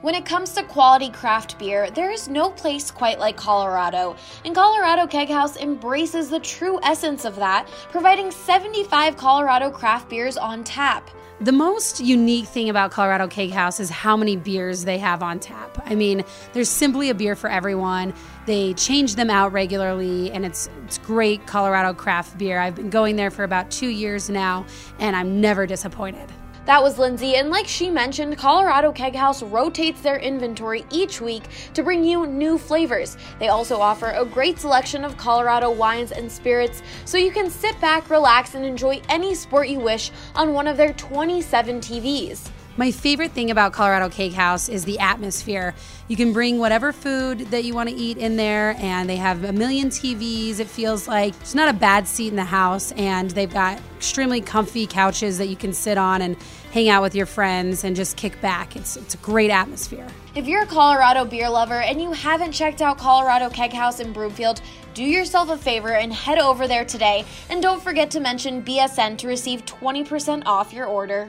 When it comes to quality craft beer, there is no place quite like Colorado, and Colorado Keg House embraces the true essence of that, providing 75 Colorado craft beers on tap. The most unique thing about Colorado Keg House is how many beers they have on tap. I mean, there's simply a beer for everyone. They change them out regularly, and it's great Colorado craft beer. I've been going there for about 2 years now, and I'm never disappointed. That was Lindsay, and like she mentioned, Colorado Keg House rotates their inventory each week to bring you new flavors. They also offer a great selection of Colorado wines and spirits, so you can sit back, relax, and enjoy any sport you wish on one of their 27 TVs. My favorite thing about Colorado Keg House is the atmosphere. You can bring whatever food that you want to eat in there, and they have a million TVs. It feels like there's not a bad seat in the house, and they've got extremely comfy couches that you can sit on and hang out with your friends and just kick back. It's a great atmosphere. If you're a Colorado beer lover and you haven't checked out Colorado Keg House in Broomfield, do yourself a favor and head over there today. And don't forget to mention BSN to receive 20% off your order.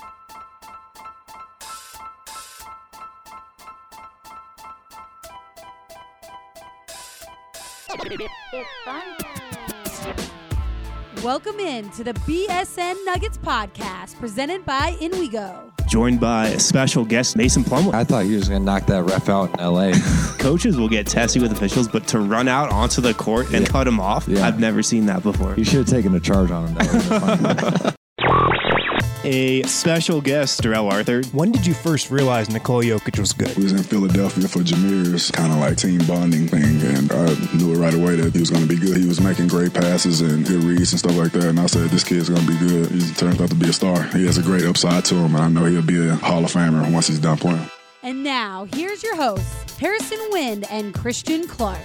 It's fun time. Welcome in to the BSN Nuggets podcast, presented by In We Go. Joined by special guest Mason Plumlee. I thought he was going to knock that ref out in L.A. Coaches will get testy with officials, but to run out onto the court and cut him off, I've never seen that before. You should have taken a charge on him. That A special guest, Darrell Arthur. When did you first realize Nikola Jokic was good? We was in Philadelphia for Jameer's kind of like team bonding thing, and I knew it right away that he was going to be good. He was making great passes and good reads and stuff like that, and I said, this kid's going to be good. He turned out to be a star. He has a great upside to him, and I know he'll be a Hall of Famer once he's done playing. And now, here's your hosts, Harrison Wind and Christian Clark.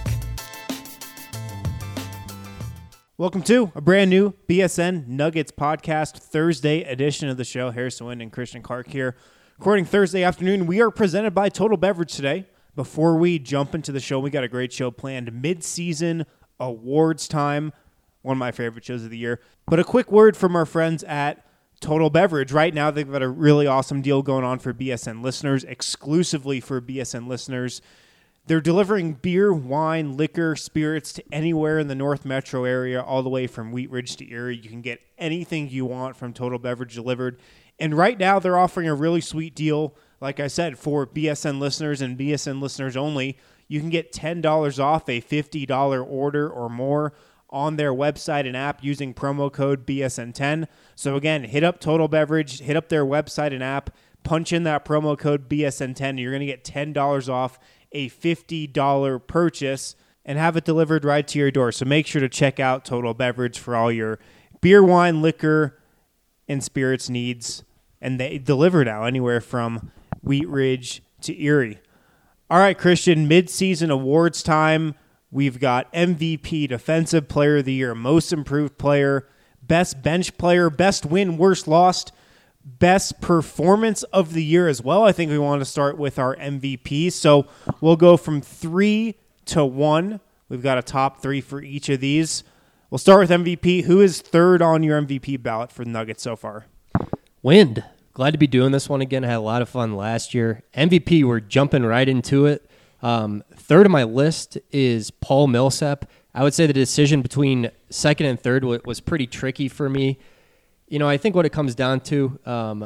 Welcome to a brand new BSN Nuggets podcast, Thursday edition of the show. Harrison Wind and Christian Clark here. Recording Thursday afternoon. We are presented by Total Beverage today. Before we jump into the show, we got a great show planned. Mid-season awards time. One of my favorite shows of the year. But a quick word from our friends at Total Beverage. Right now, they've got a really awesome deal going on for BSN listeners, exclusively for BSN listeners. They're delivering beer, wine, liquor, spirits to anywhere in the North Metro area, all the way from Wheat Ridge to Erie. You can get anything you want from Total Beverage delivered. And right now, they're offering a really sweet deal, like I said, for BSN listeners and BSN listeners only. You can get $10 off a $50 order or more on their website and app using promo code BSN10. So again, hit up Total Beverage, hit up their website and app, punch in that promo code BSN10, and you're going to get $10 off a $50 purchase and have it delivered right to your door. So make sure to check out Total Beverage for all your beer, wine, liquor, and spirits needs. And they deliver now anywhere from Wheat Ridge to Erie. All right, Christian, mid-season awards time. We've got MVP, Defensive Player of the Year, Most Improved Player, Best Bench Player, Best Win, Worst Lost, Best Performance of the Year as well. I think we want to start with our MVP. So we'll go from 3 to 1. We've got a top 3 for each of these. We'll start with MVP. Who is third on your MVP ballot for the Nuggets so far? Wind. Glad to be doing this one again. I had a lot of fun last year. MVP, we're jumping right into it. Third on my list is Paul Millsap. I would say the decision between second and third was pretty tricky for me. You know, I think what it comes down to,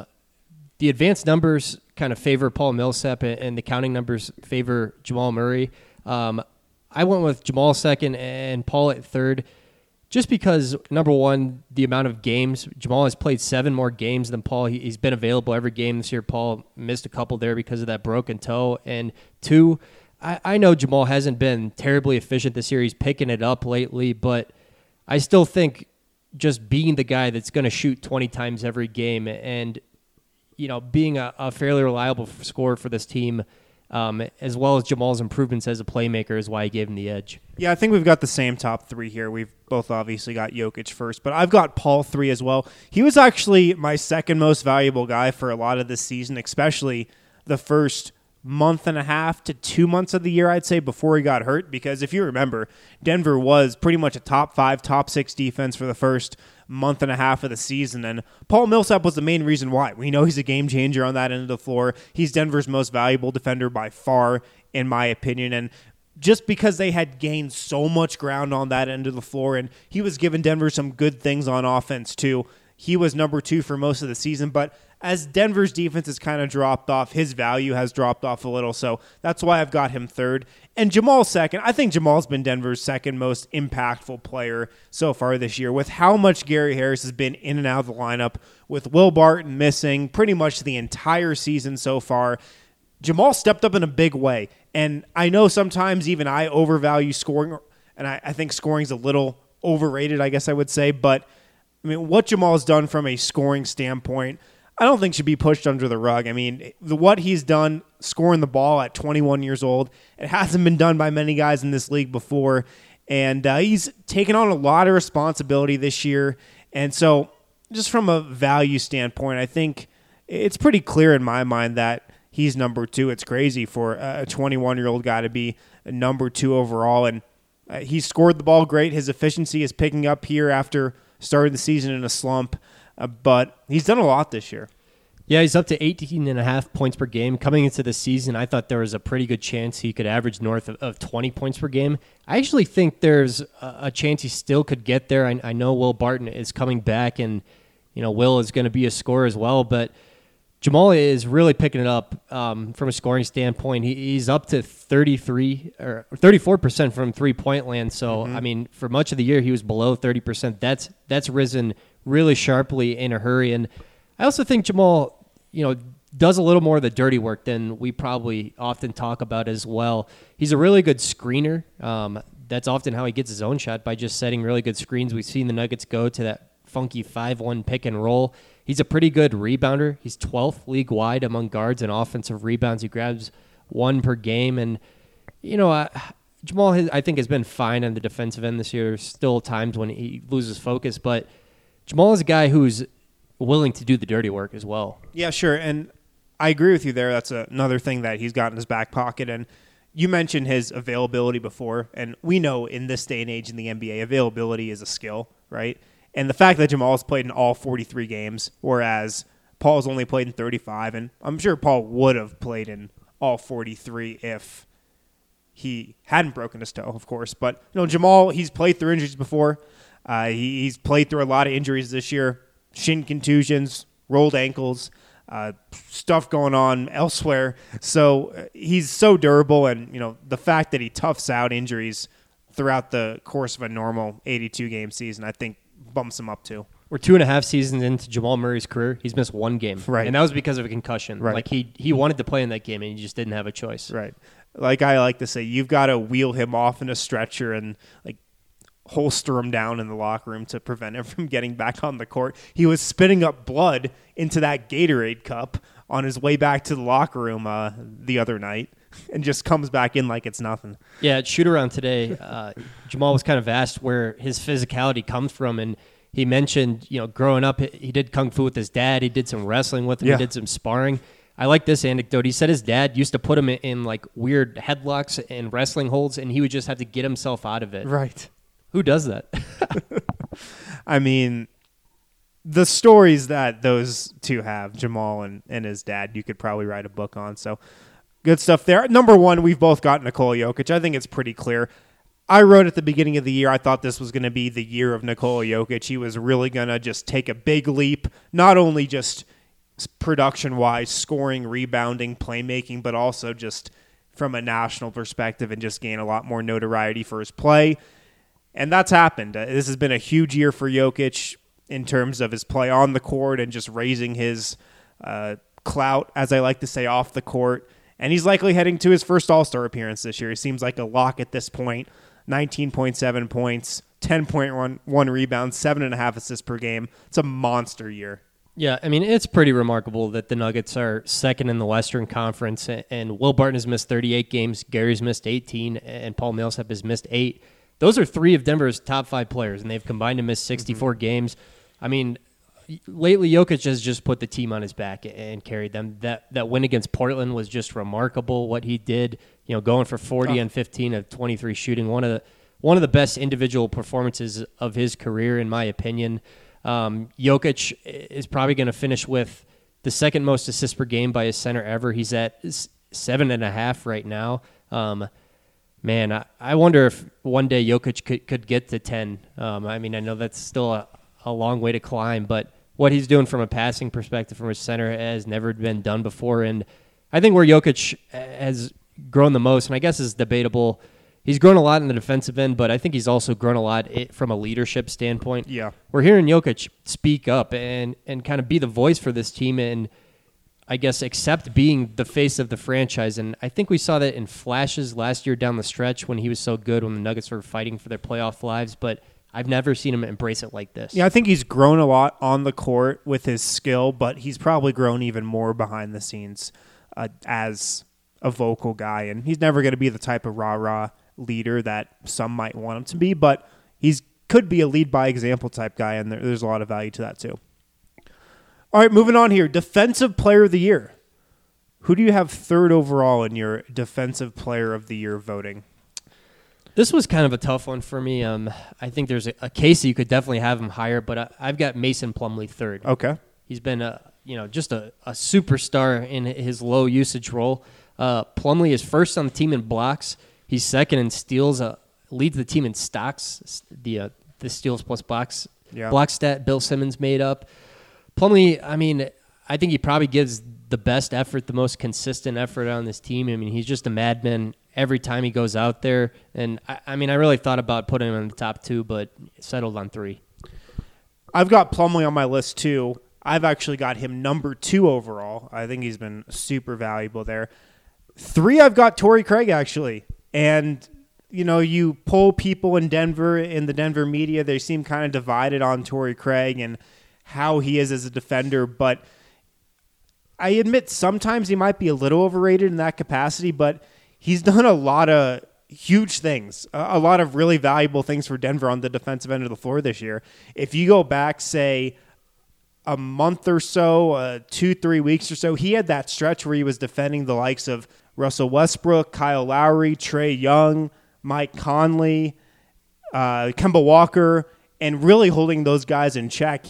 the advanced numbers kind of favor Paul Millsap and the counting numbers favor Jamal Murray. I went with Jamal second and Paul at third just because, number one, the amount of games. Jamal has played 7 more games than Paul. He's been available every game this year. Paul missed a couple there because of that broken toe. And 2, I know Jamal hasn't been terribly efficient this year. He's picking it up lately, but I still think just being the guy that's going to shoot 20 times every game and, you know, being a fairly reliable scorer for this team, as well as Jamal's improvements as a playmaker is why I gave him the edge. Yeah, I think we've got the same top 3 here. We've both obviously got Jokic first, but I've got Paul 3 as well. He was actually my second most valuable guy for a lot of this season, especially the first month and a half to 2 months of the year, I'd say, before he got hurt. Because if you remember, Denver was pretty much a top 5, top 6 defense for the first month and a half of the season. And Paul Millsap was the main reason why. We know he's a game changer on that end of the floor. He's Denver's most valuable defender by far, in my opinion. And just because they had gained so much ground on that end of the floor, and he was giving Denver some good things on offense too, he was number 2 for most of the season. But as Denver's defense has kind of dropped off, his value has dropped off a little. So that's why I've got him third. And Jamal second. I think Jamal's been Denver's second most impactful player so far this year, with how much Gary Harris has been in and out of the lineup, with Will Barton missing pretty much the entire season so far. Jamal stepped up in a big way. And I know sometimes even I overvalue scoring, and I think scoring's a little overrated, I guess I would say. But I mean, what Jamal's done from a scoring standpoint, I don't think should be pushed under the rug. I mean, what he's done scoring the ball at 21 years old, it hasn't been done by many guys in this league before. And he's taken on a lot of responsibility this year. And so just from a value standpoint, I think it's pretty clear in my mind that he's number 2. It's crazy for a 21-year-old guy to be number 2 overall. And he scored the ball great. His efficiency is picking up here after starting the season in a slump. But he's done a lot this year. Yeah, he's up to 18.5 points per game. Coming into the season, I thought there was a pretty good chance he could average north of 20 points per game. I actually think there's a chance he still could get there. I know Will Barton is coming back, and Will is going to be a scorer as well. But Jamal is really picking it up from a scoring standpoint. He's up to 33 or 34% from three-point land. So, I mean, for much of the year, he was below 30%. That's risen really sharply in a hurry. And I also think Jamal, does a little more of the dirty work than we probably often talk about as well. He's a really good screener. That's often how he gets his own shot, by just setting really good screens. We've seen the Nuggets go to that funky 5-1 pick and roll. He's a pretty good rebounder. He's 12th league-wide among guards in offensive rebounds. He grabs 1 per game. And, Jamal, I think, has been fine on the defensive end this year. There's still times when he loses focus, but Jamal is a guy who's willing to do the dirty work as well. Yeah, sure. And I agree with you there. That's another thing that he's got in his back pocket. And you mentioned his availability before. And we know in this day and age in the NBA, availability is a skill, right? And the fact that Jamal's played in all 43 games, whereas Paul's only played in 35, and I'm sure Paul would have played in all 43 if he hadn't broken his toe, of course. But Jamal, he's played through injuries before. He's played through a lot of injuries this year, shin contusions, rolled ankles, stuff going on elsewhere. So he's so durable, and the fact that he toughs out injuries throughout the course of a normal 82-game season, I think bumps him up too. We're 2.5 seasons into Jamal Murray's career. He's missed 1 game, right? And that was because of a concussion. Right. Like he wanted to play in that game, and he just didn't have a choice. Right. Like I like to say, you've got to wheel him off in a stretcher and holster him down in the locker room to prevent him from getting back on the court. He was spitting up blood into that Gatorade cup on his way back to the locker room the other night, and just comes back in like it's nothing. Yeah, at shoot-around today, Jamal was kind of asked where his physicality comes from, and he mentioned, growing up, he did kung fu with his dad. He did some wrestling with him. Yeah. He did some sparring. I like this anecdote. He said his dad used to put him in like weird headlocks and wrestling holds, and he would just have to get himself out of it. Right. Who does that? I mean, the stories that those two have, Jamal and his dad, you could probably write a book on. So good stuff there. Number 1, we've both got Nikola Jokic. I think it's pretty clear. I wrote at the beginning of the year, I thought this was going to be the year of Nikola Jokic. He was really going to just take a big leap, not only just production-wise, scoring, rebounding, playmaking, but also just from a national perspective and just gain a lot more notoriety for his play. And that's happened. This has been a huge year for Jokic in terms of his play on the court and just raising his clout, as I like to say, off the court. And he's likely heading to his first All-Star appearance this year. He seems like a lock at this point. 19.7 points, 10.1 rebounds, 7.5 assists per game. It's a monster year. Yeah, I mean, it's pretty remarkable that the Nuggets are second in the Western Conference, and Will Barton has missed 38 games, Gary's missed 18, and Paul Millsap has missed 8. Those are 3 of Denver's top 5 players, and they've combined to miss 64 games. I mean, lately Jokic has just put the team on his back and carried them. That win against Portland was just remarkable. What he did, going for 40 and 15 of 23 shooting, one of the best individual performances of his career, in my opinion. Jokic is probably going to finish with the second most assists per game by a center ever. He's at 7.5 right now. Man, I wonder if one day Jokic could get to 10. I know that's still a long way to climb, but what he's doing from a passing perspective from a center has never been done before. And I think where Jokic has grown the most, and I guess is debatable, he's grown a lot in the defensive end, but I think he's also grown a lot from a leadership standpoint. Yeah. We're hearing Jokic speak up and kind of be the voice for this team and I guess accept being the face of the franchise. And I think we saw that in flashes last year down the stretch when he was so good, when the Nuggets were fighting for their playoff lives, but I've never seen him embrace it like this. Yeah, I think he's grown a lot on the court with his skill, but he's probably grown even more behind the scenes as a vocal guy. And he's never going to be the type of rah-rah leader that some might want him to be, but he's could be a lead by example type guy, and there's a lot of value to that too. All right, moving on here. Defensive Player of the Year. Who do you have third overall in your Defensive Player of the Year voting? This was kind of a tough one for me. I think there's a case that you could definitely have him higher, but I've got Mason Plumlee third. Okay. He's been just a superstar in his low usage role. Plumlee is first on the team in blocks. He's second in steals. Leads the team in stocks. The steals plus blocks block stat Bill Simmons made up. Plumlee, I think he probably gives the best effort, the most consistent effort on this team. He's just a madman every time he goes out there. And, I really thought about putting him in the top 2, but settled on 3. I've got Plumlee on my list, too. I've actually got him number 2 overall. I think he's been super valuable there. 3, I've got Torrey Craig, actually. And, you poll people in the Denver media, they seem kind of divided on Torrey Craig and how he is as a defender, but I admit sometimes he might be a little overrated in that capacity, but he's done a lot of huge things, a lot of really valuable things for Denver on the defensive end of the floor this year. If you go back, say, a month or so, 2-3 weeks or so, he had that stretch where he was defending the likes of Russell Westbrook, Kyle Lowry, Trae Young, Mike Conley, Kemba Walker, and really holding those guys in check.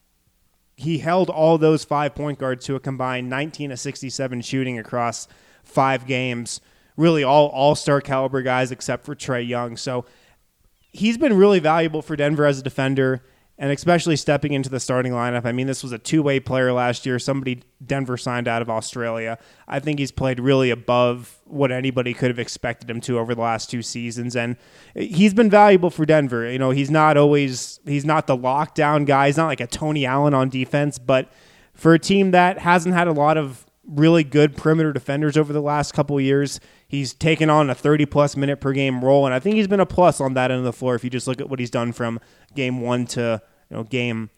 He held all those 5 point guards to a combined 19 of 67 shooting across 5 games. Really all all-star caliber guys except for Trae Young. So he's been really valuable for Denver as a defender, and especially stepping into the starting lineup. This was a two-way player last year. Somebody Denver signed out of Australia. I think he's played really above what anybody could have expected him to over the last 2 seasons, and he's been valuable for Denver. He's not the lockdown guy. He's not like a Tony Allen on defense, but for a team that hasn't had a lot of really good perimeter defenders over the last couple of years, he's taken on a 30-plus minute per game role, and I think he's been a plus on that end of the floor if you just look at what he's done from game 1 to game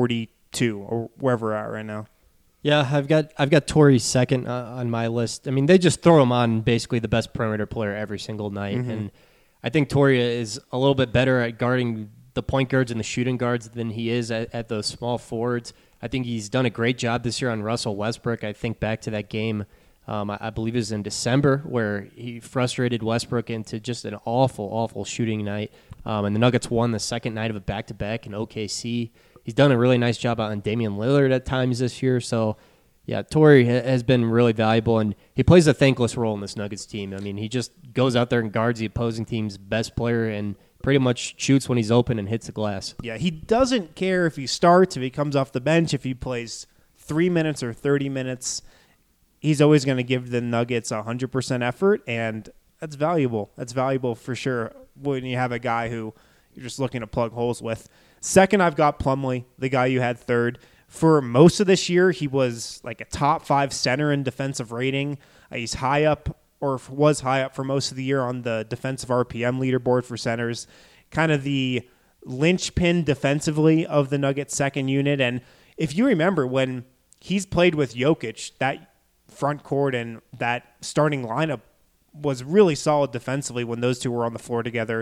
42 or wherever we're at right now. Yeah, I've got Torrey second on my list. They just throw him on basically the best perimeter player every single night, and I think Torrey is a little bit better at guarding the point guards and the shooting guards than he is at those small forwards. I think he's done a great job this year on Russell Westbrook. I think back to that game, I believe it was in December, where he frustrated Westbrook into just an awful, awful shooting night. And the Nuggets won the second night of a back-to-back in OKC. He's done a really nice job on Damian Lillard at times this year. So, yeah, Torrey has been really valuable, and he plays a thankless role in this Nuggets team. He just goes out there and guards the opposing team's best player and pretty much shoots when he's open and hits the glass. Yeah, he doesn't care if he starts, if he comes off the bench, if he plays 3 minutes or 30 minutes. He's always going to give the Nuggets 100% effort, and that's valuable. That's valuable for sure when you have a guy who you're just looking to plug holes with. Second, I've got Plumlee, the guy you had third. For most of this year, he was like a top 5 center in defensive rating. He's high up, or was high up for most of the year on the defensive RPM leaderboard for centers. Kind of the linchpin defensively of the Nuggets second unit. And if you remember, when he's played with Jokic, that front court and that starting lineup was really solid defensively when those two were on the floor together.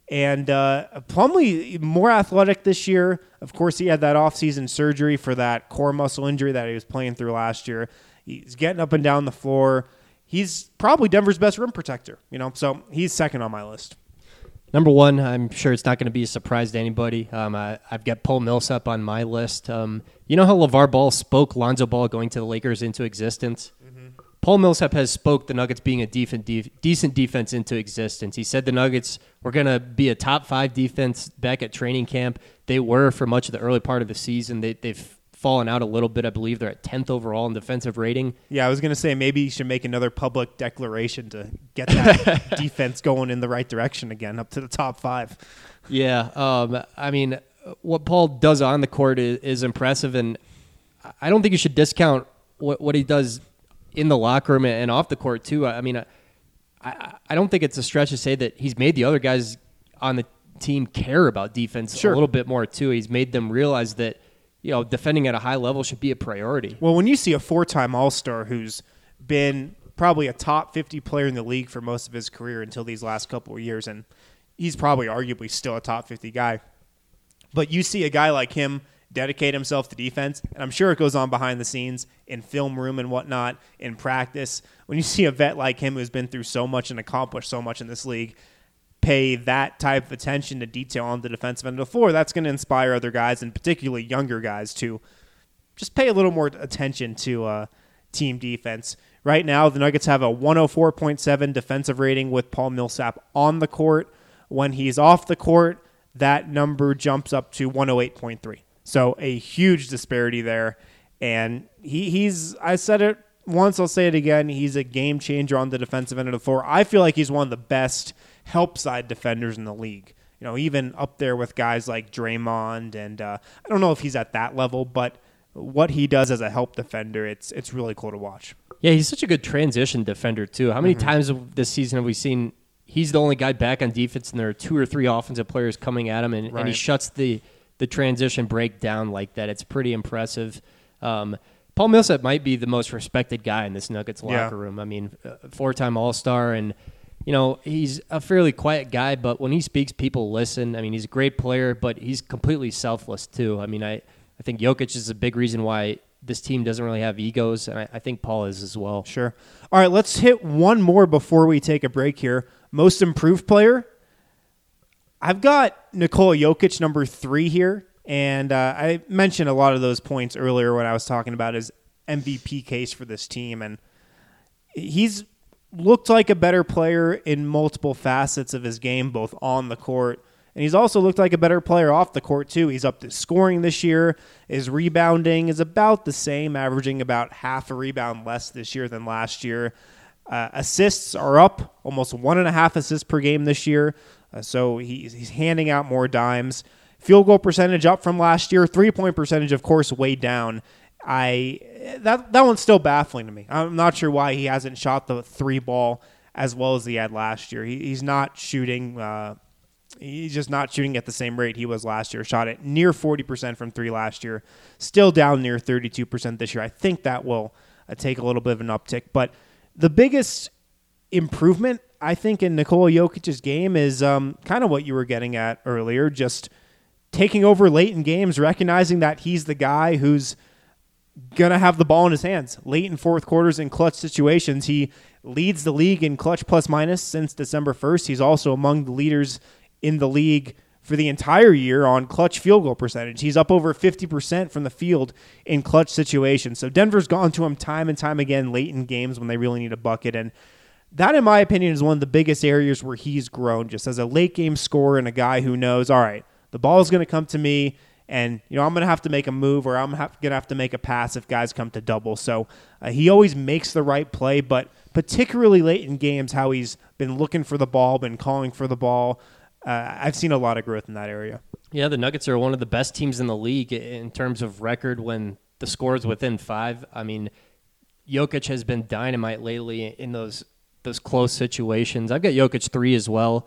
And Plumlee, more athletic this year. Of course, he had that offseason surgery for that core muscle injury that he was playing through last year. He's getting up and down the floor. He's probably Denver's best rim protector, so he's second on my list. Number one, I'm sure it's not going to be a surprise to anybody. I've got Paul Millsap on my list. You know how LeVar Ball spoke Lonzo Ball going to the Lakers into existence? Paul Millsap has spoke the Nuggets being a decent defense into existence. He said the Nuggets were going to be a top 5 defense back at training camp. They were for much of the early part of the season. They've fallen out a little bit. I believe they're at 10th overall in defensive rating. Yeah, I was going to say maybe you should make another public declaration to get that defense going in the right direction again, up to the top 5. Yeah, I mean, what Paul does on the court is impressive, and I don't think you should discount what he does in the locker room and off the court too. I mean, I don't think it's a stretch to say that he's made the other guys on the team care about defense a little bit more too. He's made them realize that, defending at a high level should be a priority. Well, when you see a 4-time All-Star who's been probably a top 50 player in the league for most of his career until these last couple of years, and he's probably arguably still a top 50 guy, but you see a guy like him dedicate himself to defense, and I'm sure it goes on behind the scenes in film room and whatnot, in practice. When you see a vet like him who's been through so much and accomplished so much in this league pay that type of attention to detail on the defensive end of the floor, that's going to inspire other guys, and particularly younger guys, to just pay a little more attention to team defense. Right now, the Nuggets have a 104.7 defensive rating with Paul Millsap on the court. When he's off the court, that number jumps up to 108.3. So a huge disparity there. And he's, I said it once, I'll say it again, he's a game changer on the defensive end of the floor. I feel like he's one of the best help side defenders in the league. Even up there with guys like Draymond. And I don't know if he's at that level, but what he does as a help defender, it's really cool to watch. Yeah, he's such a good transition defender too. How many times this season have we seen he's the only guy back on defense and there are 2 or 3 offensive players coming at him and he shuts the transition break down like that? It's pretty impressive. Paul Millsap might be the most respected guy in this Nuggets locker room. I mean, 4-time All-Star, and he's a fairly quiet guy, but when he speaks, people listen. I mean, he's a great player, but he's completely selfless too. I mean, I think Jokic is a big reason why this team doesn't really have egos, and I think Paul is as well. Sure. All right, let's hit one more before we take a break here. Most improved player. I've got Nikola Jokic, number 3 here, and I mentioned a lot of those points earlier when I was talking about his MVP case for this team, and he's looked like a better player in multiple facets of his game, both on the court, and he's also looked like a better player off the court too. He's up to scoring this year. His rebounding is about the same, averaging about half a rebound less this year than last year. Assists are up, almost 1.5 assists per game this year. So he's handing out more dimes. Field goal percentage up from last year. 3-point percentage, of course, way down. That one's still baffling to me. I'm not sure why he hasn't shot the 3 ball as well as he had last year. He's not shooting. He's just not shooting at the same rate he was last year. Shot at near 40% from 3 last year. Still down near 32% this year. I think that will take a little bit of an uptick. But the biggest improvement, I think, in Nikola Jokic's game is kind of what you were getting at earlier, just taking over late in games, recognizing that he's the guy who's going to have the ball in his hands late in fourth quarters in clutch situations. He leads the league in clutch plus minus since December 1st. He's also among the leaders in the league for the entire year on clutch field goal percentage. He's up over 50% from the field in clutch situations. So Denver's gone to him time and time again late in games when they really need a bucket. And that, in my opinion, is one of the biggest areas where he's grown, just as a late game scorer and a guy who knows, all right, the ball is going to come to me, and I'm going to have to make a move, or I'm going to have to make a pass if guys come to double. So he always makes the right play, but particularly late in games, how he's been looking for the ball, been calling for the ball, I've seen a lot of growth in that area. Yeah, the Nuggets are one of the best teams in the league in terms of record when the score is within 5. I mean, Jokic has been dynamite lately in those close situations. I've got Jokic 3 as well.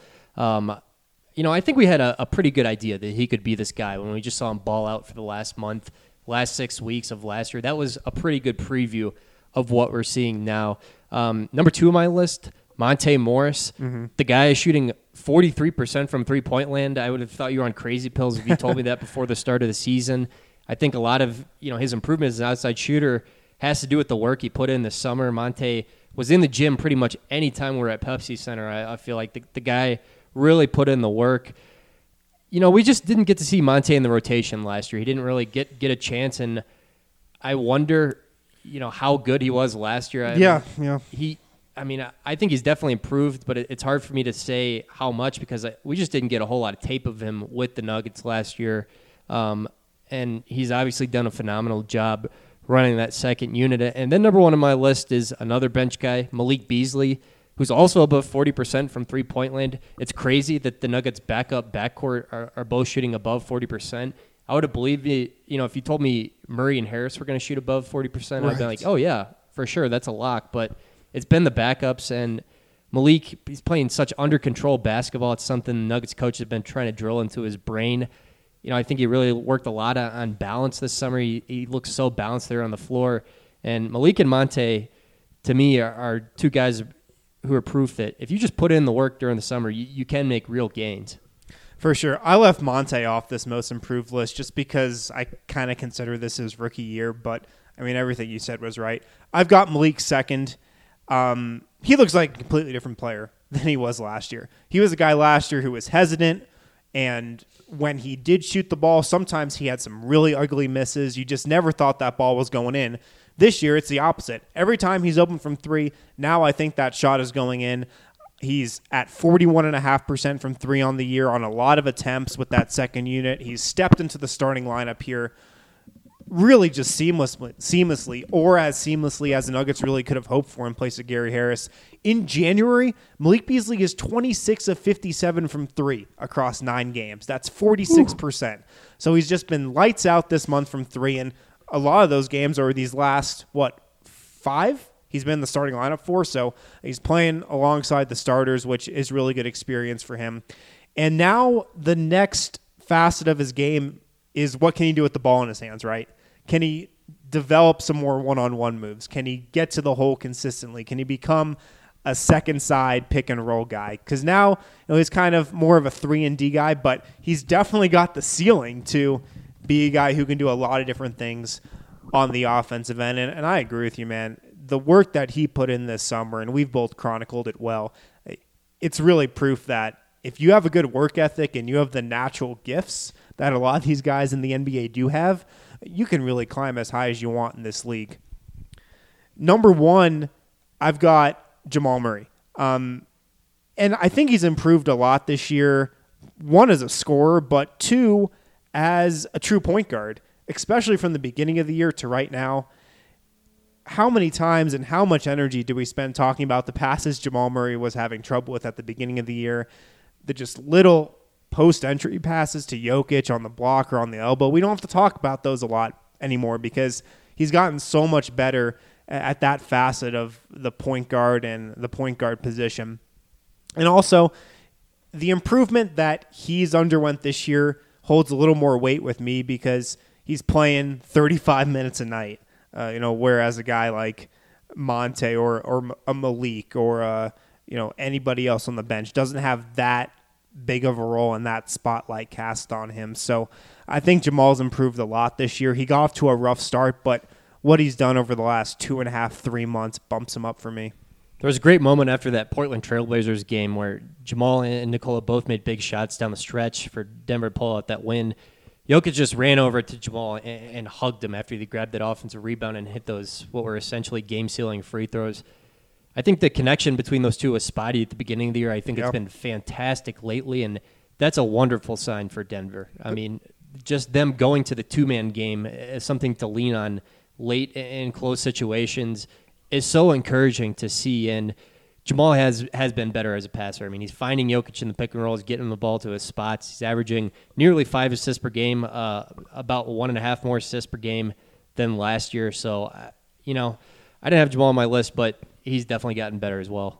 I think we had a pretty good idea that he could be this guy when we just saw him ball out for the last 6 weeks of last year. That was a pretty good preview of what we're seeing now. Number 2 on my list, Monte Morris, the guy is shooting 43% from three-point land. I would have thought you were on crazy pills if you told me that before the start of the season. I think a lot of his improvement as an outside shooter has to do with the work he put in this summer. Monte was in the gym pretty much any time we're at Pepsi Center. I feel like the guy really put in the work. We just didn't get to see Monte in the rotation last year. He didn't really get a chance, and I wonder, how good he was last year. I think he's definitely improved, but it's hard for me to say how much because we just didn't get a whole lot of tape of him with the Nuggets last year. And he's obviously done a phenomenal job running that second unit. And then number one on my list is another bench guy, Malik Beasley, who's also above 40% from three-point land. It's crazy that the Nuggets' backcourt are both shooting above 40%. I would have believed it, if you told me Murray and Harris were going to shoot above 40%, I'd be like, oh, yeah, for sure, that's a lock. But it's been the backups, and Malik, he's playing such under-control basketball. It's something the Nuggets coach has been trying to drill into his brain. I think he really worked a lot on balance this summer. He looks so balanced there on the floor. And Malik and Monte, to me, are two guys who are proof that if you just put in the work during the summer, you can make real gains. For sure. I left Monte off this most improved list just because I kind of consider this his rookie year. But, everything you said was right. I've got Malik second. He looks like a completely different player than he was last year. He was a guy last year who was hesitant, and when he did shoot the ball, sometimes he had some really ugly misses. You just never thought that ball was going in. This year, it's the opposite. Every time he's open from three, now I think that shot is going in. He's at 41.5% from three on the year on a lot of attempts with that second unit. He's stepped into the starting lineup here really just seamlessly, or as seamlessly as the Nuggets really could have hoped for in place of Gary Harris. In January, Malik Beasley is 26 of 57 from three across 9 games. That's 46%. Ooh. So he's just been lights out this month from three, and a lot of those games are these last, 5? He's been in the starting lineup for, so he's playing alongside the starters, which is really good experience for him. And now the next facet of his game is what can he do with the ball in his hands, right? Can he develop some more one-on-one moves? Can he get to the hole consistently? Can he become a second side pick and roll guy? Because now he's kind of more of a 3-and-D guy, but he's definitely got the ceiling to be a guy who can do a lot of different things on the offensive end. And I agree with you, man. The work that he put in this summer, and we've both chronicled it well, it's really proof that if you have a good work ethic and you have the natural gifts that a lot of these guys in the NBA do have, you can really climb as high as you want in this league. Number one, I've got Jamal Murray. And I think he's improved a lot this year. One, as a scorer, but two, as a true point guard, especially from the beginning of the year to right now. How many times and how much energy do we spend talking about the passes Jamal Murray was having trouble with at the beginning of the year? The just little post-entry passes to Jokic on the block or on the elbow. We don't have to talk about those a lot anymore because he's gotten so much better at that facet of the point guard and the point guard position. And also, the improvement that he's underwent this year holds a little more weight with me because he's playing 35 minutes a night. Whereas a guy like Monte or a Malik or anybody else on the bench doesn't have that big of a role and that spotlight cast on him. So I think Jamal's improved a lot this year. He got off to a rough start, but what he's done over the last 2.5, 3 months bumps him up for me. There was a great moment after that Portland Trailblazers game where Jamal and Nikola both made big shots down the stretch for Denver to pull out that win. Jokic just ran over to Jamal and hugged him after he grabbed that offensive rebound and hit those, what were essentially game-sealing free throws. I think the connection between those two was spotty at the beginning of the year. I think it's been fantastic lately, and that's a wonderful sign for Denver. I mean, just them going to the two-man game as something to lean on late in close situations is so encouraging to see, and Jamal has been better as a passer. I mean, he's finding Jokic in the pick and rolls, getting him the ball to his spots. He's averaging nearly 5 assists per game, about 1.5 more assists per game than last year. So, I didn't have Jamal on my list, but he's definitely gotten better as well.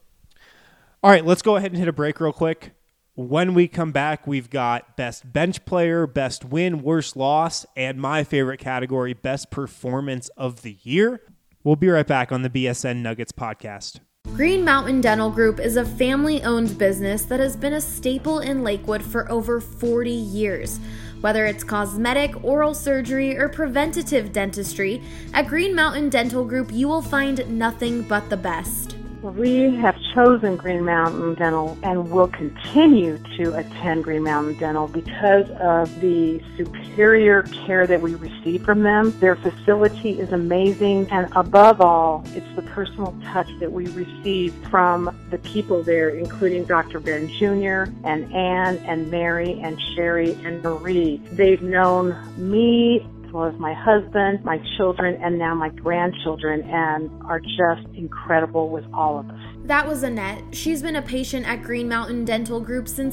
All right, let's go ahead and hit a break real quick. When we come back, we've got best bench player, best win, worst loss, and my favorite category, best performance of the year. We'll be right back on the BSN Nuggets podcast. Green Mountain Dental Group is a family-owned business that has been a staple in Lakewood for over 40 years. Whether it's cosmetic, oral surgery, or preventative dentistry, at Green Mountain Dental Group you will find nothing but the best. We have chosen Green Mountain Dental and will continue to attend Green Mountain Dental because of the superior care that we receive from them. Their facility is amazing, and above all, it's the personal touch that we receive from the people there, including Dr. Ben Jr. and Ann and Mary and Sherry and Marie. They've known me as well as my husband, my children, and now my grandchildren, and are just incredible with all of us. That was Annette. She's been a patient at Green Mountain Dental Group since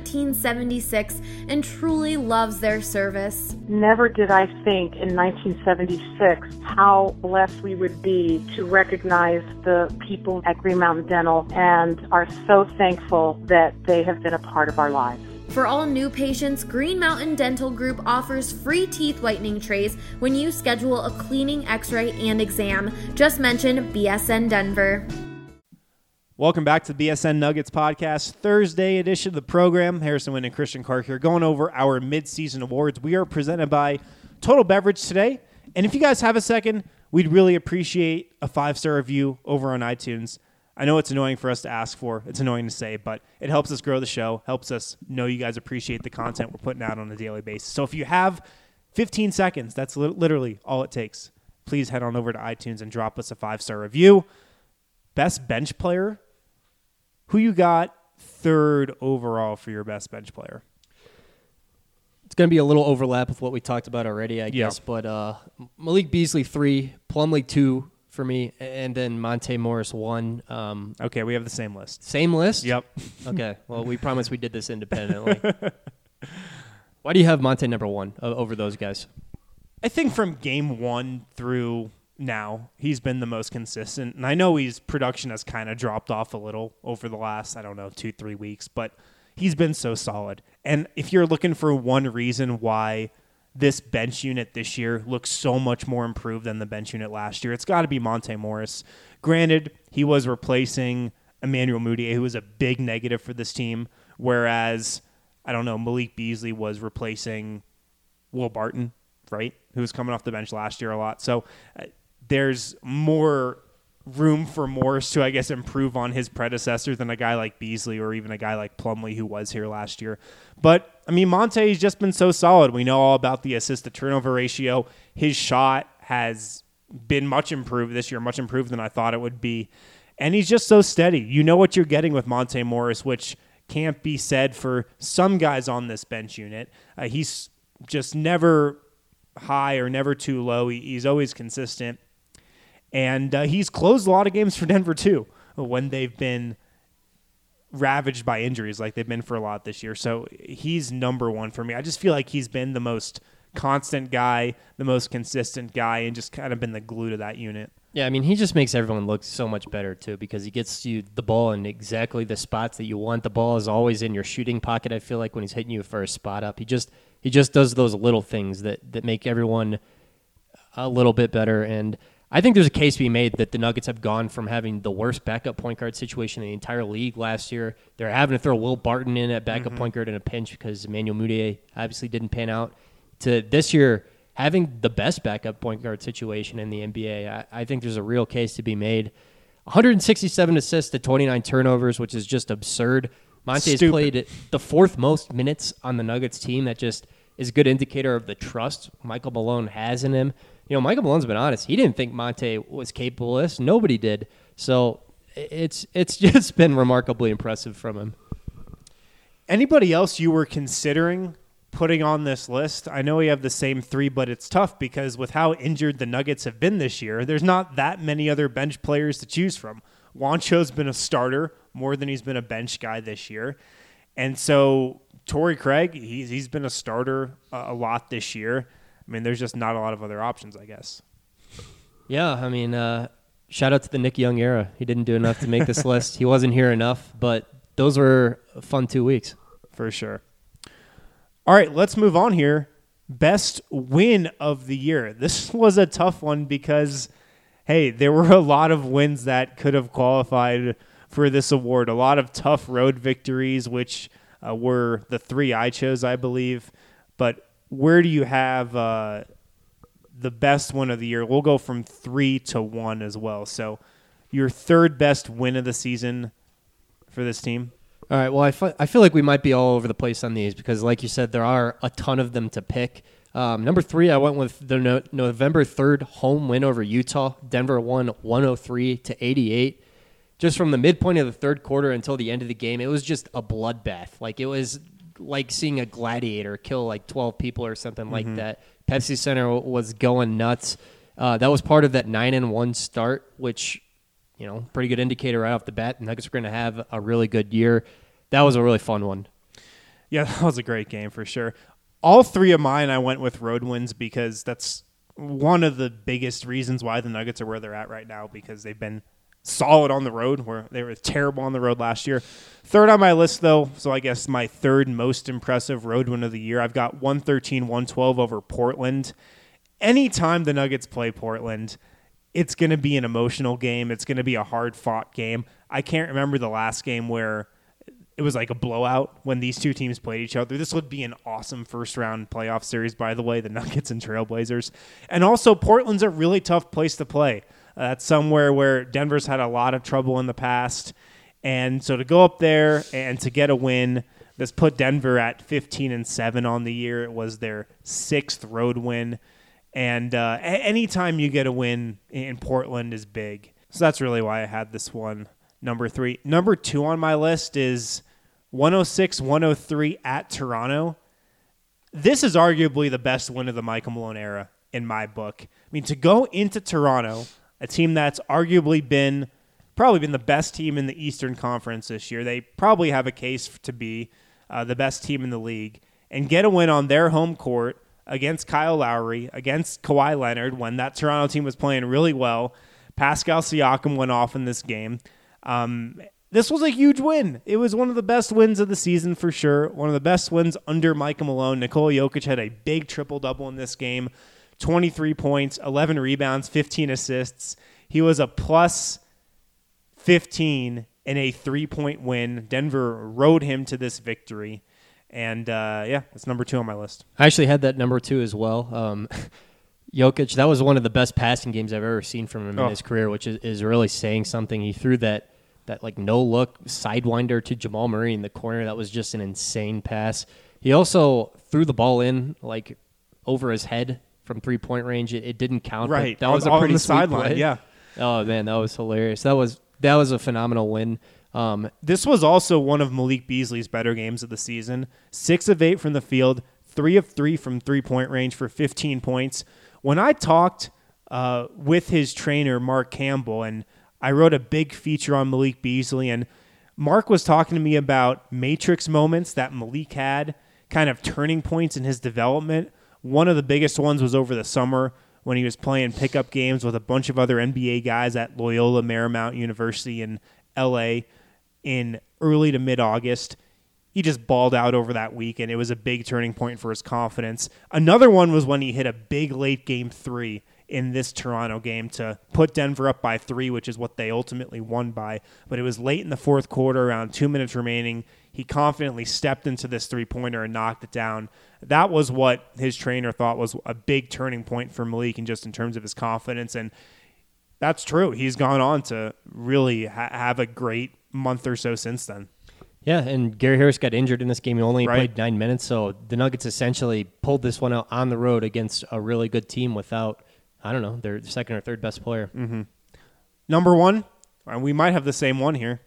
1976 and truly loves their service. Never did I think in 1976 how blessed we would be to recognize the people at Green Mountain Dental, and are so thankful that they have been a part of our lives. For all new patients, Green Mountain Dental Group offers free teeth whitening trays when you schedule a cleaning, x-ray, and exam. Just mention BSN Denver. Welcome back to the BSN Nuggets podcast, Thursday edition of the program. Harrison Wind and Christian Clark here, going over our mid-season awards. We are presented by Total Beverage today. And if you guys have a second, we'd really appreciate a 5-star review over on iTunes. I know it's annoying for us to ask for. It's annoying to say, but it helps us grow the show, helps us know you guys appreciate the content we're putting out on a daily basis. So if you have 15 seconds, that's literally all it takes. Please head on over to iTunes and drop us a 5-star review. Best bench player. Who you got third overall for your best bench player? It's going to be a little overlap with what we talked about already, I guess. But Malik Beasley 3, Plumlee 2 for me, and then Monte Morris 1. Okay, we have the same list. Same list? Yep. Okay, well, we promised we did this independently. Why do you have Monte number 1 over those guys? I think from game 1 through now, he's been the most consistent. And I know his production has kind of dropped off a little over the last, 2-3 weeks, but he's been so solid. And if you're looking for one reason why this bench unit this year looks so much more improved than the bench unit last year, it's got to be Monte Morris. Granted, he was replacing Emmanuel Mudiay, who was a big negative for this team, whereas, Malik Beasley was replacing Will Barton, right, who was coming off the bench last year a lot. So there's more room for Morris to, I guess, improve on his predecessor than a guy like Beasley or even a guy like Plumlee who was here last year. But, Monte's just been so solid. We know all about the assist-to-turnover ratio. His shot has been much improved this year, much improved than I thought it would be. And he's just so steady. You know what you're getting with Monte Morris, which can't be said for some guys on this bench unit. He's just never high or never too low. He's always consistent. And he's closed a lot of games for Denver, too, when they've been ravaged by injuries like they've been for a lot this year. So he's number 1 for me. I just feel like he's been the most constant guy, the most consistent guy, and just kind of been the glue to that unit. Yeah, he just makes everyone look so much better, too, because he gets you the ball in exactly the spots that you want. The ball is always in your shooting pocket, I feel like, when he's hitting you for a spot up. He just does those little things that make everyone a little bit better. And I think there's a case to be made that the Nuggets have gone from having the worst backup point guard situation in the entire league last year. They're having to throw Will Barton in at backup point guard in a pinch because Emmanuel Mudiay obviously didn't pan out, to this year having the best backup point guard situation in the NBA. I think there's a real case to be made. 167 assists to 29 turnovers, which is just absurd. Monte has played the 4th most minutes on the Nuggets team. That just is a good indicator of the trust Michael Malone has in him. Michael Malone's been honest. He didn't think Monte was capable of this. Nobody did. So it's just been remarkably impressive from him. Anybody else you were considering putting on this list? I know we have the same 3, but it's tough because with how injured the Nuggets have been this year, there's not that many other bench players to choose from. Juancho's been a starter more than he's been a bench guy this year. And so Torrey Craig, he's been a starter a lot this year. There's just not a lot of other options, I guess. Yeah, shout out to the Nick Young era. He didn't do enough to make this list. He wasn't here enough, but those were a fun 2 weeks. For sure. All right, let's move on here. Best win of the year. This was a tough one because hey, there were a lot of wins that could have qualified for this award. A lot of tough road victories, which were the 3 I chose, I believe. But where do you have the best win of the year? We'll go from 3 to 1 as well. So your third best win of the season for this team? All right, well, I feel like we might be all over the place on these because, like you said, there are a ton of them to pick. Number 3, I went with the November 3rd home win over Utah. Denver won 103-88. Just from the midpoint of the third quarter until the end of the game, it was just a bloodbath. Like, it was like seeing a gladiator kill like 12 people or something like that. Pepsi Center was going nuts. That was part of that 9-1 start, which, you know, pretty good indicator right off the bat. The Nuggets are going to have a really good year. That was a really fun one. Yeah, that was a great game for sure. All 3 of mine, I went with road wins because that's one of the biggest reasons why the Nuggets are where they're at right now, because they've been solid on the road, where they were terrible on the road last year. Third on my list, though, so I guess my third most impressive road win of the year, I've got 113-112 over Portland. Anytime the Nuggets play Portland, it's going to be an emotional game. It's going to be a hard-fought game. I can't remember the last game where it was like a blowout when these two teams played each other. This would be an awesome first-round playoff series, by the way, the Nuggets and Trailblazers. And also, Portland's a really tough place to play. That's somewhere where Denver's had a lot of trouble in the past. And so to go up there and to get a win, this put Denver at 15-7 on the year. It was their 6th road win. And anytime you get a win in Portland is big. So that's really why I had this one, number 3. Number 2 on my list is 106-103 at Toronto. This is arguably the best win of the Michael Malone era in my book. I mean, to go into Toronto, a team that's arguably probably been the best team in the Eastern Conference this year. They probably have a case to be the best team in the league, and get a win on their home court against Kyle Lowry, against Kawhi Leonard, when that Toronto team was playing really well. Pascal Siakam went off in this game. This was a huge win. It was one of the best wins of the season for sure. One of the best wins under Michael Malone. Nikola Jokic had a big triple-double in this game. 23 points, 11 rebounds, 15 assists. He was a plus 15 in a 3-point win. Denver rode him to this victory. And, that's number 2 on my list. I actually had that number 2 as well. Jokic, that was one of the best passing games I've ever seen from him in his career, which is really saying something. He threw that like no-look sidewinder to Jamal Murray in the corner. That was just an insane pass. He also threw the ball in, like, over his head from 3-point range. It didn't count. Right. That was a pretty sweet sideline. play. Yeah. Oh, man, that was hilarious. That was a phenomenal win. This was also one of Malik Beasley's better games of the season. 6 of 8 from the field, 3 of 3 from 3-point range for 15 points. When I talked with his trainer, Mark Campbell, and I wrote a big feature on Malik Beasley, and Mark was talking to me about matrix moments that Malik had, kind of turning points in his development. One of the biggest ones was over the summer when he was playing pickup games with a bunch of other NBA guys at Loyola Marymount University in L.A. in early to mid-August. He just balled out over that week, and it was a big turning point for his confidence. Another one was when he hit a big late game 3 in this Toronto game to put Denver up by 3, which is what they ultimately won by. But it was late in the fourth quarter, around 2 minutes remaining. He confidently stepped into this 3-pointer and knocked it down. That was what his trainer thought was a big turning point for Malik, and just in terms of his confidence. And that's true. He's gone on to really have a great month or so since then. Yeah, and Gary Harris got injured in this game. He only played 9 minutes, so the Nuggets essentially pulled this one out on the road against a really good team without, I don't know, their second or third best player. Mm-hmm. Number 1, and we might have the same one here.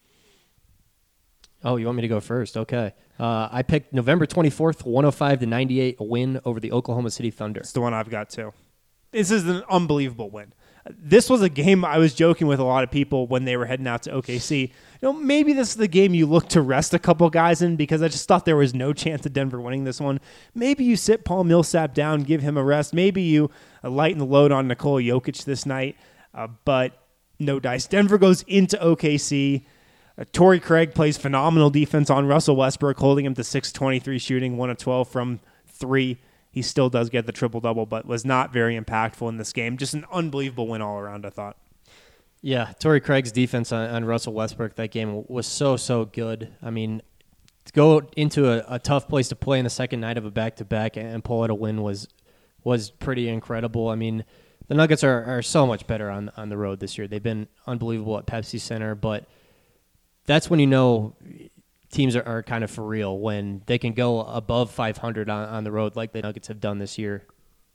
Oh, you want me to go first? Okay. I picked November 24th, 105-98, a win over the Oklahoma City Thunder. It's the one I've got too. This is an unbelievable win. This was a game I was joking with a lot of people when they were heading out to OKC. Maybe this is the game you look to rest a couple guys in, because I just thought there was no chance of Denver winning this one. Maybe you sit Paul Millsap down, give him a rest. Maybe you lighten the load on Nikola Jokic this night, but no dice. Denver goes into OKC. Torrey Craig plays phenomenal defense on Russell Westbrook, holding him to 6-23 shooting, 1 of 12 from 3. he still does get the triple-double, but was not very impactful in this game. Just an unbelievable win all around, I thought. Yeah, Torrey Craig's defense on Russell Westbrook that game was so good. I mean, to go into a tough place to play in the second night of a back-to-back and pull out a win was pretty incredible. I mean, the Nuggets are so much better on the road this year. They've been unbelievable at Pepsi Center, but that's when you know teams are kind of for real, when they can go above 500 on the road like the Nuggets have done this year.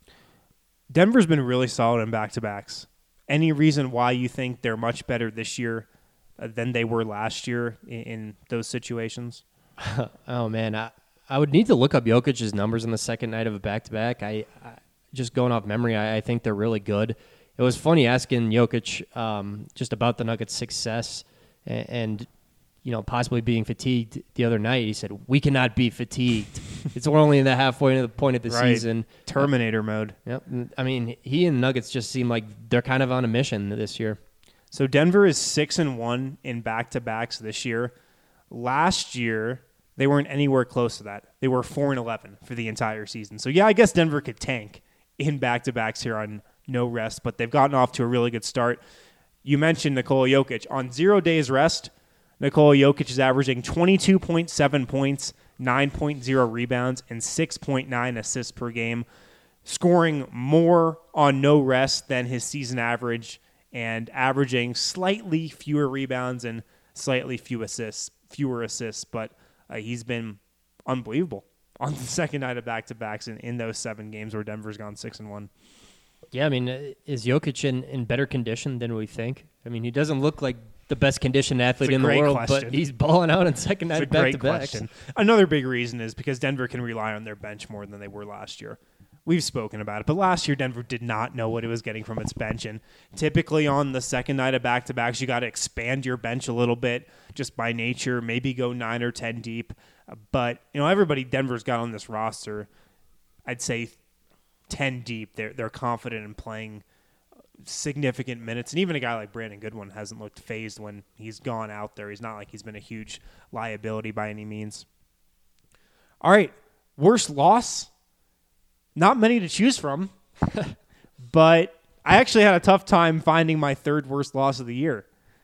Denver's been really solid in back-to-backs. Any reason why you think they're much better this year than they were last year in those situations? Oh, man. I would need to look up Jokic's numbers in the second night of a back-to-back. I just going off memory, I think they're really good. It was funny asking Jokic just about the Nuggets' success and possibly being fatigued the other night. He said, "We cannot be fatigued. We're only in the halfway point of the season." Terminator mode. Yep. I mean, he and Nuggets just seem like they're kind of on a mission this year. So Denver is 6-1 in back-to-backs this year. Last year, they weren't anywhere close to that. They were 4-11 for the entire season. So yeah, I guess Denver could tank in back-to-backs here on no rest, but they've gotten off to a really good start. You mentioned Nikola Jokic. On 0 days rest, Nikola Jokic is averaging 22.7 points, 9.0 rebounds, and 6.9 assists per game, scoring more on no rest than his season average and averaging slightly fewer rebounds and slightly fewer assists. But he's been unbelievable on the second night of back-to-backs in those 7 games where Denver's gone 6-1. Yeah, I mean, is Jokic in better condition than we think? I mean, he doesn't look like the best conditioned athlete in the world, but he's balling out on second night of back-to-backs. Another big reason is because Denver can rely on their bench more than they were last year. We've spoken about it, but last year Denver did not know what it was getting from its bench, and typically on the second night of back-to-backs, you got to expand your bench a little bit just by nature, maybe go 9 or 10 deep. But everybody Denver's got on this roster, I'd say 10 deep. They're confident in playing significant minutes, and even a guy like Brandon Goodwin hasn't looked phased when he's gone out there. He's not like he's been a huge liability by any means. All right, worst loss. Not many to choose from, but I actually had a tough time finding my third worst loss of the year.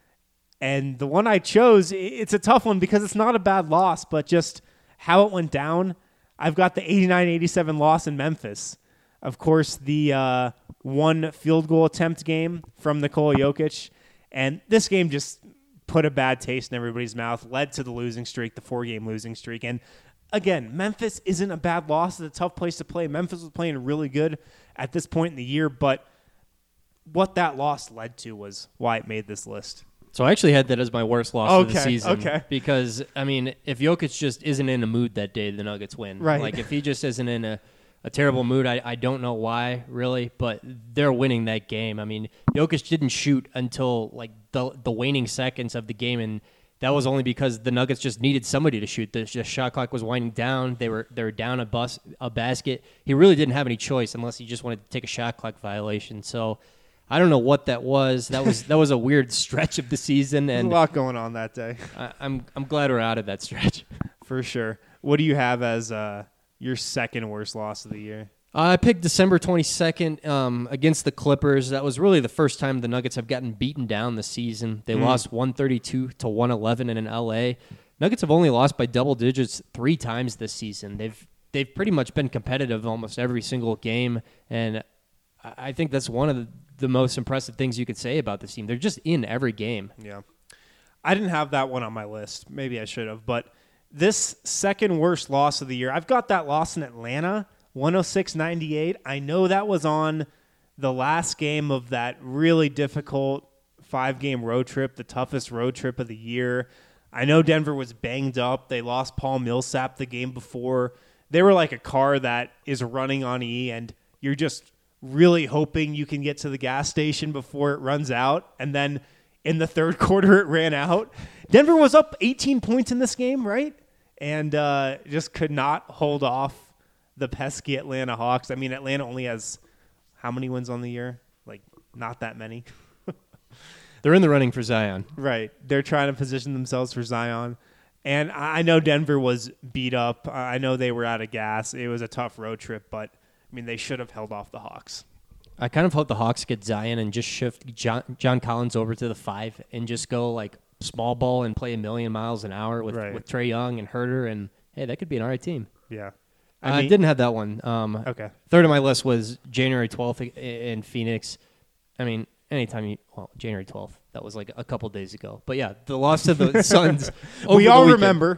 And the one I chose, it's a tough one because it's not a bad loss, but just how it went down. I've got the 89-87 loss in Memphis. Of course, the one field goal attempt game from Nikola Jokic. And this game just put a bad taste in everybody's mouth, led to the losing streak, the 4-game losing streak. And again, Memphis isn't a bad loss. It's a tough place to play. Memphis was playing really good at this point in the year, but what that loss led to was why it made this list. So I actually had that as my worst loss of the season. Okay. Because, I mean, if Jokic just isn't in a mood that day, the Nuggets win. Right. Like, if he just isn't in a terrible mood, I don't know why, really, but they're winning that game. I mean, Jokic didn't shoot until, like, the waning seconds of the game, and that was only because the Nuggets just needed somebody to shoot. The shot clock was winding down. They were down a basket. He really didn't have any choice unless he just wanted to take a shot clock violation. So I don't know what that was. That was a weird stretch of the season, and there's a lot going on that day. I'm glad we're out of that stretch for sure. What do you have as your second worst loss of the year? I picked December 22nd against the Clippers. That was really the first time the Nuggets have gotten beaten down this season. They lost 132-111 in L.A. Nuggets have only lost by double digits 3 times this season. They've pretty much been competitive almost every single game, and I think that's one of the most impressive things you could say about this team. They're just in every game. Yeah. I didn't have that one on my list. Maybe I should have, but this second worst loss of the year, I've got that loss in Atlanta, 106-98. I know that was on the last game of that really difficult 5-game road trip, the toughest road trip of the year. I know Denver was banged up. They lost Paul Millsap the game before. They were like a car that is running on E, and you're just really hoping you can get to the gas station before it runs out. And then in the third quarter, it ran out. Denver was up 18 points in this game, right? And just could not hold off the pesky Atlanta Hawks. I mean, Atlanta only has how many wins on the year? Like, not that many. They're in the running for Zion. Right. They're trying to position themselves for Zion. And I know Denver was beat up. I know they were out of gas. It was a tough road trip, but I mean, they should have held off the Hawks. I kind of hope the Hawks get Zion and just shift John Collins over to the 5 and just go like small ball and play a million miles an hour with Trae Young and Herter, and hey, that could be an all right team. Yeah. I didn't have that one. Okay. Third on my list was January 12th in Phoenix. I mean, January 12th. That was like a couple days ago. But yeah, the loss to the Suns. We all remember.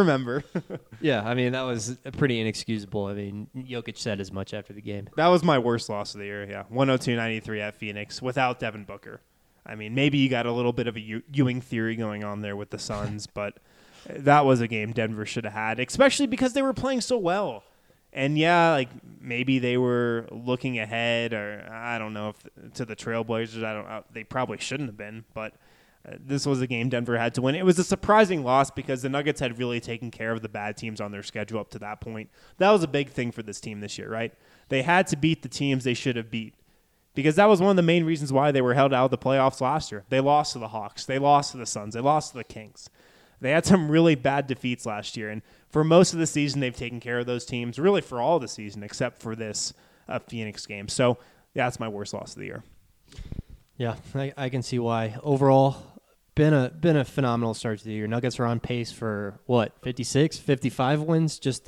Yeah, I mean, that was pretty inexcusable. I mean, Jokic said as much after the game. That was my worst loss of the year, yeah. 102-93 at Phoenix without Devin Booker. I mean, maybe you got a little bit of a Ewing theory going on there with the Suns, but that was a game Denver should have had, especially because they were playing so well. And yeah, like maybe they were looking ahead, or I don't know if to the Trailblazers. They probably shouldn't have been, but this was a game Denver had to win. It was a surprising loss because the Nuggets had really taken care of the bad teams on their schedule up to that point. That was a big thing for this team this year, right? They had to beat the teams they should have beat because that was one of the main reasons why they were held out of the playoffs last year. They lost to the Hawks. They lost to the Suns. They lost to the Kings. They had some really bad defeats last year, and for most of the season, they've taken care of those teams, really for all of the season, except for this Phoenix game. So, yeah, that's my worst loss of the year. Yeah, I can see why. Overall, been a phenomenal start to the year. Nuggets are on pace for, 56, 55 wins, just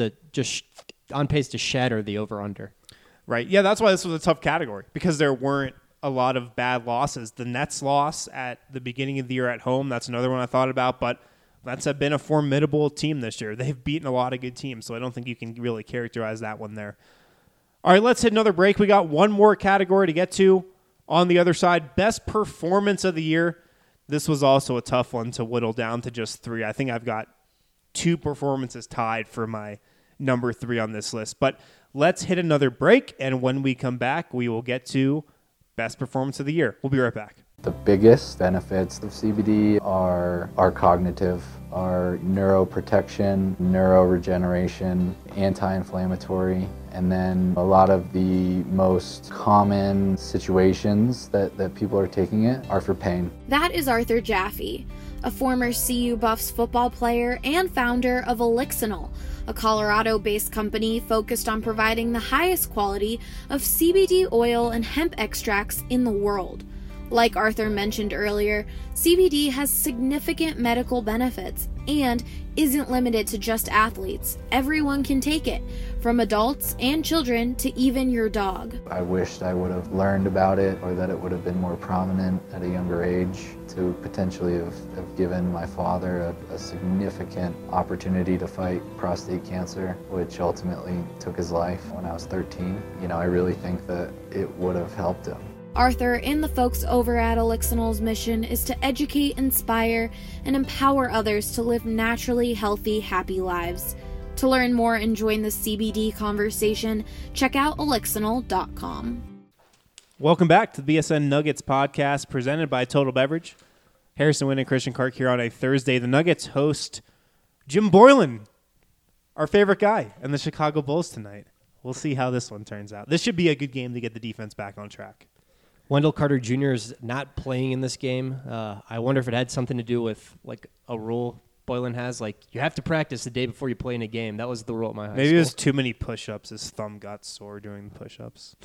on pace to shatter the over-under. Right. Yeah, that's why this was a tough category, because there weren't a lot of bad losses. The Nets loss at the beginning of the year at home, that's another one I thought about, but Nets have been a formidable team this year. They've beaten a lot of good teams, so I don't think you can really characterize that one there. All right, let's hit another break. We got one more category to get to on the other side. Best performance of the year. This was also a tough one to whittle down to just 3. I think I've got 2 performances tied for my number 3 on this list. But let's hit another break, and when we come back, we will get to best performance of the year. We'll be right back. The biggest benefits of CBD are cognitive, are neuroprotection, neuroregeneration, anti-inflammatory, and then a lot of the most common situations that people are taking it are for pain. That is Arthur Jaffe, a former CU Buffs football player and founder of Elixinol, a Colorado-based company focused on providing the highest quality of CBD oil and hemp extracts in the world. Like Arthur mentioned earlier, CBD has significant medical benefits and isn't limited to just athletes. Everyone can take it, from adults and children to even your dog. I wished I would have learned about it, or that it would have been more prominent at a younger age to potentially have given my father a significant opportunity to fight prostate cancer, which ultimately took his life when I was 13. I really think that it would have helped him. Arthur and the folks over at Elixinol's mission is to educate, inspire, and empower others to live naturally healthy, happy lives. To learn more and join the CBD conversation, check out Elixinol.com. Welcome back to the BSN Nuggets podcast presented by Total Beverage. Harrison Wind and Christian Clark here on a Thursday. The Nuggets host Jim Boylan, our favorite guy, and the Chicago Bulls tonight. We'll see how this one turns out. This should be a good game to get the defense back on track. Wendell Carter Jr. is not playing in this game. I wonder if it had something to do with like a rule Boylan has. Like, you have to practice the day before you play in a game. That was the rule at my high school. Maybe it was too many push-ups. His thumb got sore doing the push-ups.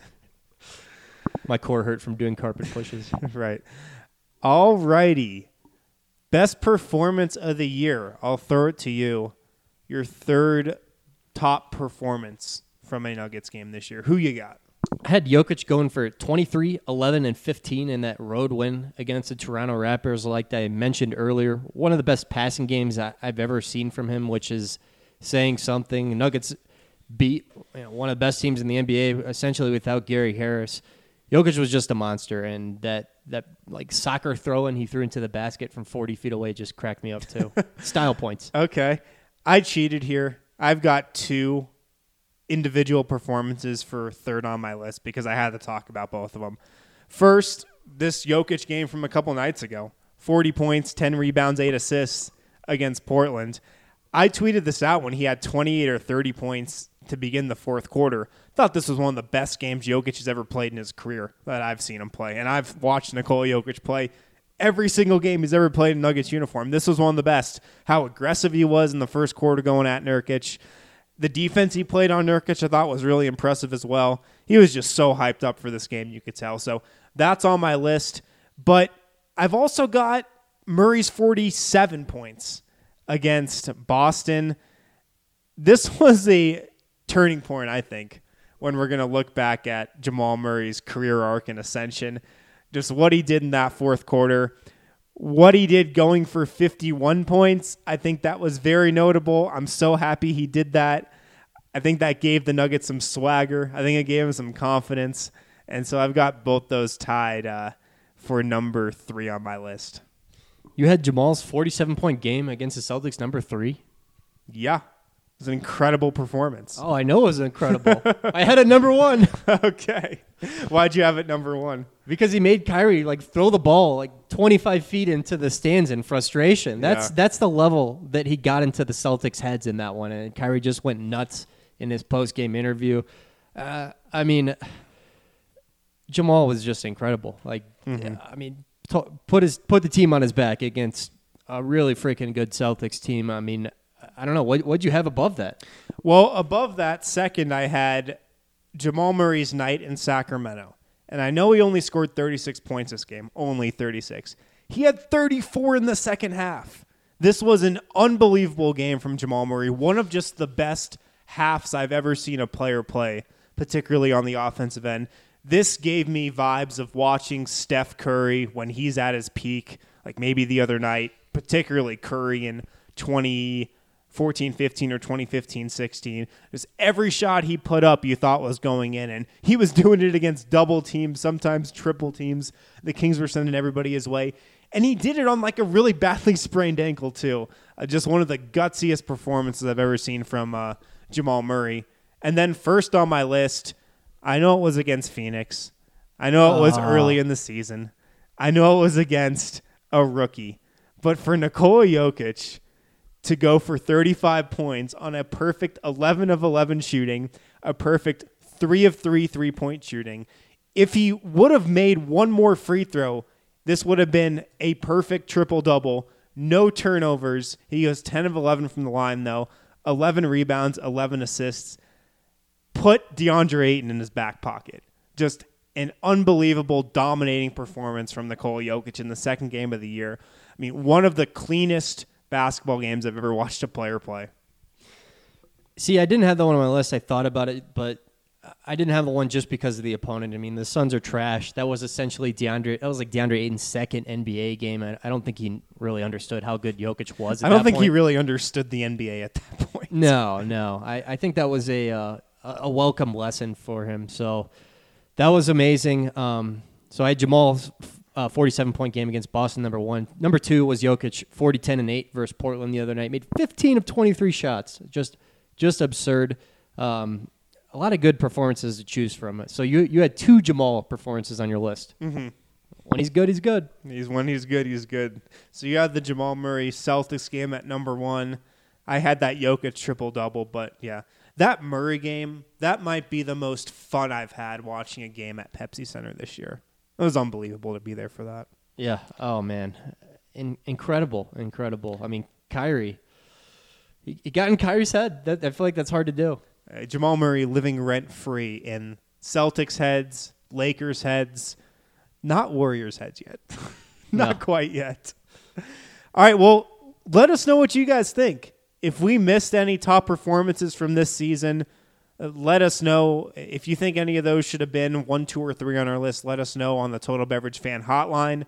My core hurt from doing carpet pushes. Right. All righty. Best performance of the year. I'll throw it to you. Your third top performance from a Nuggets game this year. Who you got? I had Jokic going for 23, 11, and 15 in that road win against the Toronto Raptors, like I mentioned earlier. One of the best passing games I've ever seen from him, which is saying something. Nuggets beat one of the best teams in the NBA, essentially without Gary Harris. Jokic was just a monster, and that like soccer throw-in he threw into the basket from 40 feet away just cracked me up too. Style points. Okay. I cheated here. I've got 2 individual performances for third on my list because I had to talk about both of them. First, this Jokic game from a couple nights ago. 40 points, 10 rebounds, 8 assists against Portland. I tweeted this out when he had 28 or 30 points to begin the fourth quarter. Thought this was one of the best games Jokic has ever played in his career that I've seen him play. And I've watched Nikola Jokic play every single game he's ever played in Nuggets uniform. This was one of the best. How aggressive he was in the first quarter going at Nurkic. The defense he played on Nurkic I thought was really impressive as well. He was just so hyped up for this game, you could tell. So that's on my list. But I've also got Murray's 47 points against Boston. This was a turning point, I think, when we're going to look back at Jamal Murray's career arc and ascension. Just what he did in that fourth quarter. What he did going for 51 points, I think that was very notable. I'm so happy he did that. I think that gave the Nuggets some swagger. I think it gave him some confidence. And so I've got both those tied for number 3 on my list. You had Jamal's 47-point game against the Celtics, number 3? Yeah. It was an incredible performance. Oh, I know it was incredible. I had it number 1. Okay. Why'd you have it number 1? Because he made Kyrie throw the ball 25 feet into the stands in frustration. That's the level that he got into the Celtics' heads in that one. And Kyrie just went nuts in his post-game interview. Jamal was just incredible. Put the team on his back against a really freaking good Celtics team. I don't know. What'd you have above that? Well, above that, second, I had Jamal Murray's night in Sacramento. And I know he only scored 36 points this game, only 36. He had 34 in the second half. This was an unbelievable game from Jamal Murray, one of just the best halves I've ever seen a player play, particularly on the offensive end. This gave me vibes of watching Steph Curry when he's at his peak, like maybe the other night, particularly Curry in 2014-15 or 2015-16. Just every shot he put up you thought was going in, and he was doing it against double teams, sometimes triple teams. The Kings were sending everybody his way, and he did it on a really badly sprained ankle too. Just one of the gutsiest performances I've ever seen from Jamal Murray. And then first on my list, I know it was against Phoenix. I know it was early in the season. I know it was against a rookie. But for Nikola Jokic to go for 35 points on a perfect 11 of 11 shooting, a perfect 3 of 3 3-point shooting, if he would have made one more free throw, this would have been a perfect triple-double. No turnovers. He goes 10 of 11 from the line, though. 11 rebounds, 11 assists. Put DeAndre Ayton in his back pocket. Just an unbelievable, dominating performance from Nikola Jokic in the second game of the year. One of the cleanest basketball games I've ever watched a player play. See, I didn't have that one on my list. I thought about it, but I didn't have the one just because of the opponent. The Suns are trash. That was essentially DeAndre Ayton's second NBA game. I don't think he really understood how good Jokic was at that point. I don't think he really understood the NBA at that point. No. I think that was a welcome lesson for him. So that was amazing. So I had Jamal's 47-point game against Boston, number 1. Number 2 was Jokic, 40, 10, and 8 versus Portland the other night. Made 15 of 23 shots. Just absurd. A lot of good performances to choose from. So you had 2 Jamal performances on your list. Mm-hmm. When he's good, he's good. When he's good, he's good. So you had the Jamal Murray Celtics game at number 1. I had that Jokic triple-double, but yeah. That Murray game, that might be the most fun I've had watching a game at Pepsi Center this year. It was unbelievable to be there for that. Yeah. Oh, man. Incredible. Kyrie. He got in Kyrie's head. I feel like that's hard to do. Jamal Murray living rent-free in Celtics heads, Lakers heads, not Warriors heads yet. Not quite yet. All right, well, let us know what you guys think. If we missed any top performances from this season, let us know. If you think any of those should have been 1, 2, or 3 on our list, let us know on the Total Beverage Fan Hotline,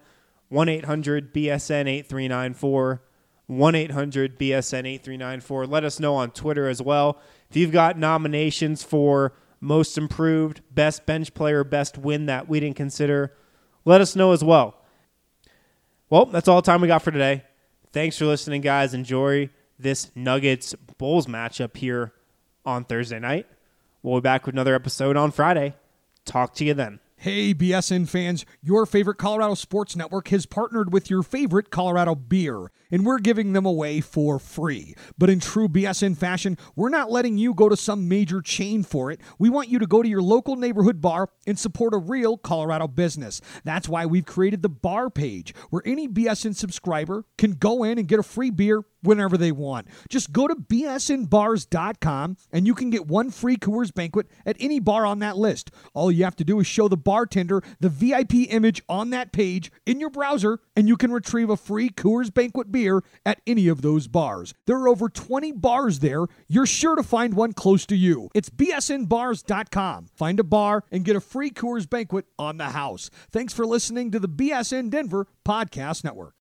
1-800-BSN-8394, 1-800-BSN-8394. Let us know on Twitter as well. If you've got nominations for Most Improved, Best Bench Player, Best Win that we didn't consider, let us know as well. Well, that's all the time we got for today. Thanks for listening, guys. Enjoy this Nuggets-Bulls matchup here on Thursday night. We'll be back with another episode on Friday. Talk to you then. Hey, BSN fans, your favorite Colorado Sports Network has partnered with your favorite Colorado beer, and we're giving them away for free. But in true BSN fashion, we're not letting you go to some major chain for it. We want you to go to your local neighborhood bar and support a real Colorado business. That's why we've created the bar page, where any BSN subscriber can go in and get a free beer whenever they want. Just go to bsnbars.com and you can get one free Coors Banquet at any bar on that list. All you have to do is show the bartender the VIP image on that page in your browser, and you can retrieve a free Coors Banquet beer at any of those bars. There are over 20 bars there. You're sure to find one close to you. It's bsnbars.com. Find a bar and get a free Coors Banquet on the house. Thanks for listening to the BSN Denver Podcast Network.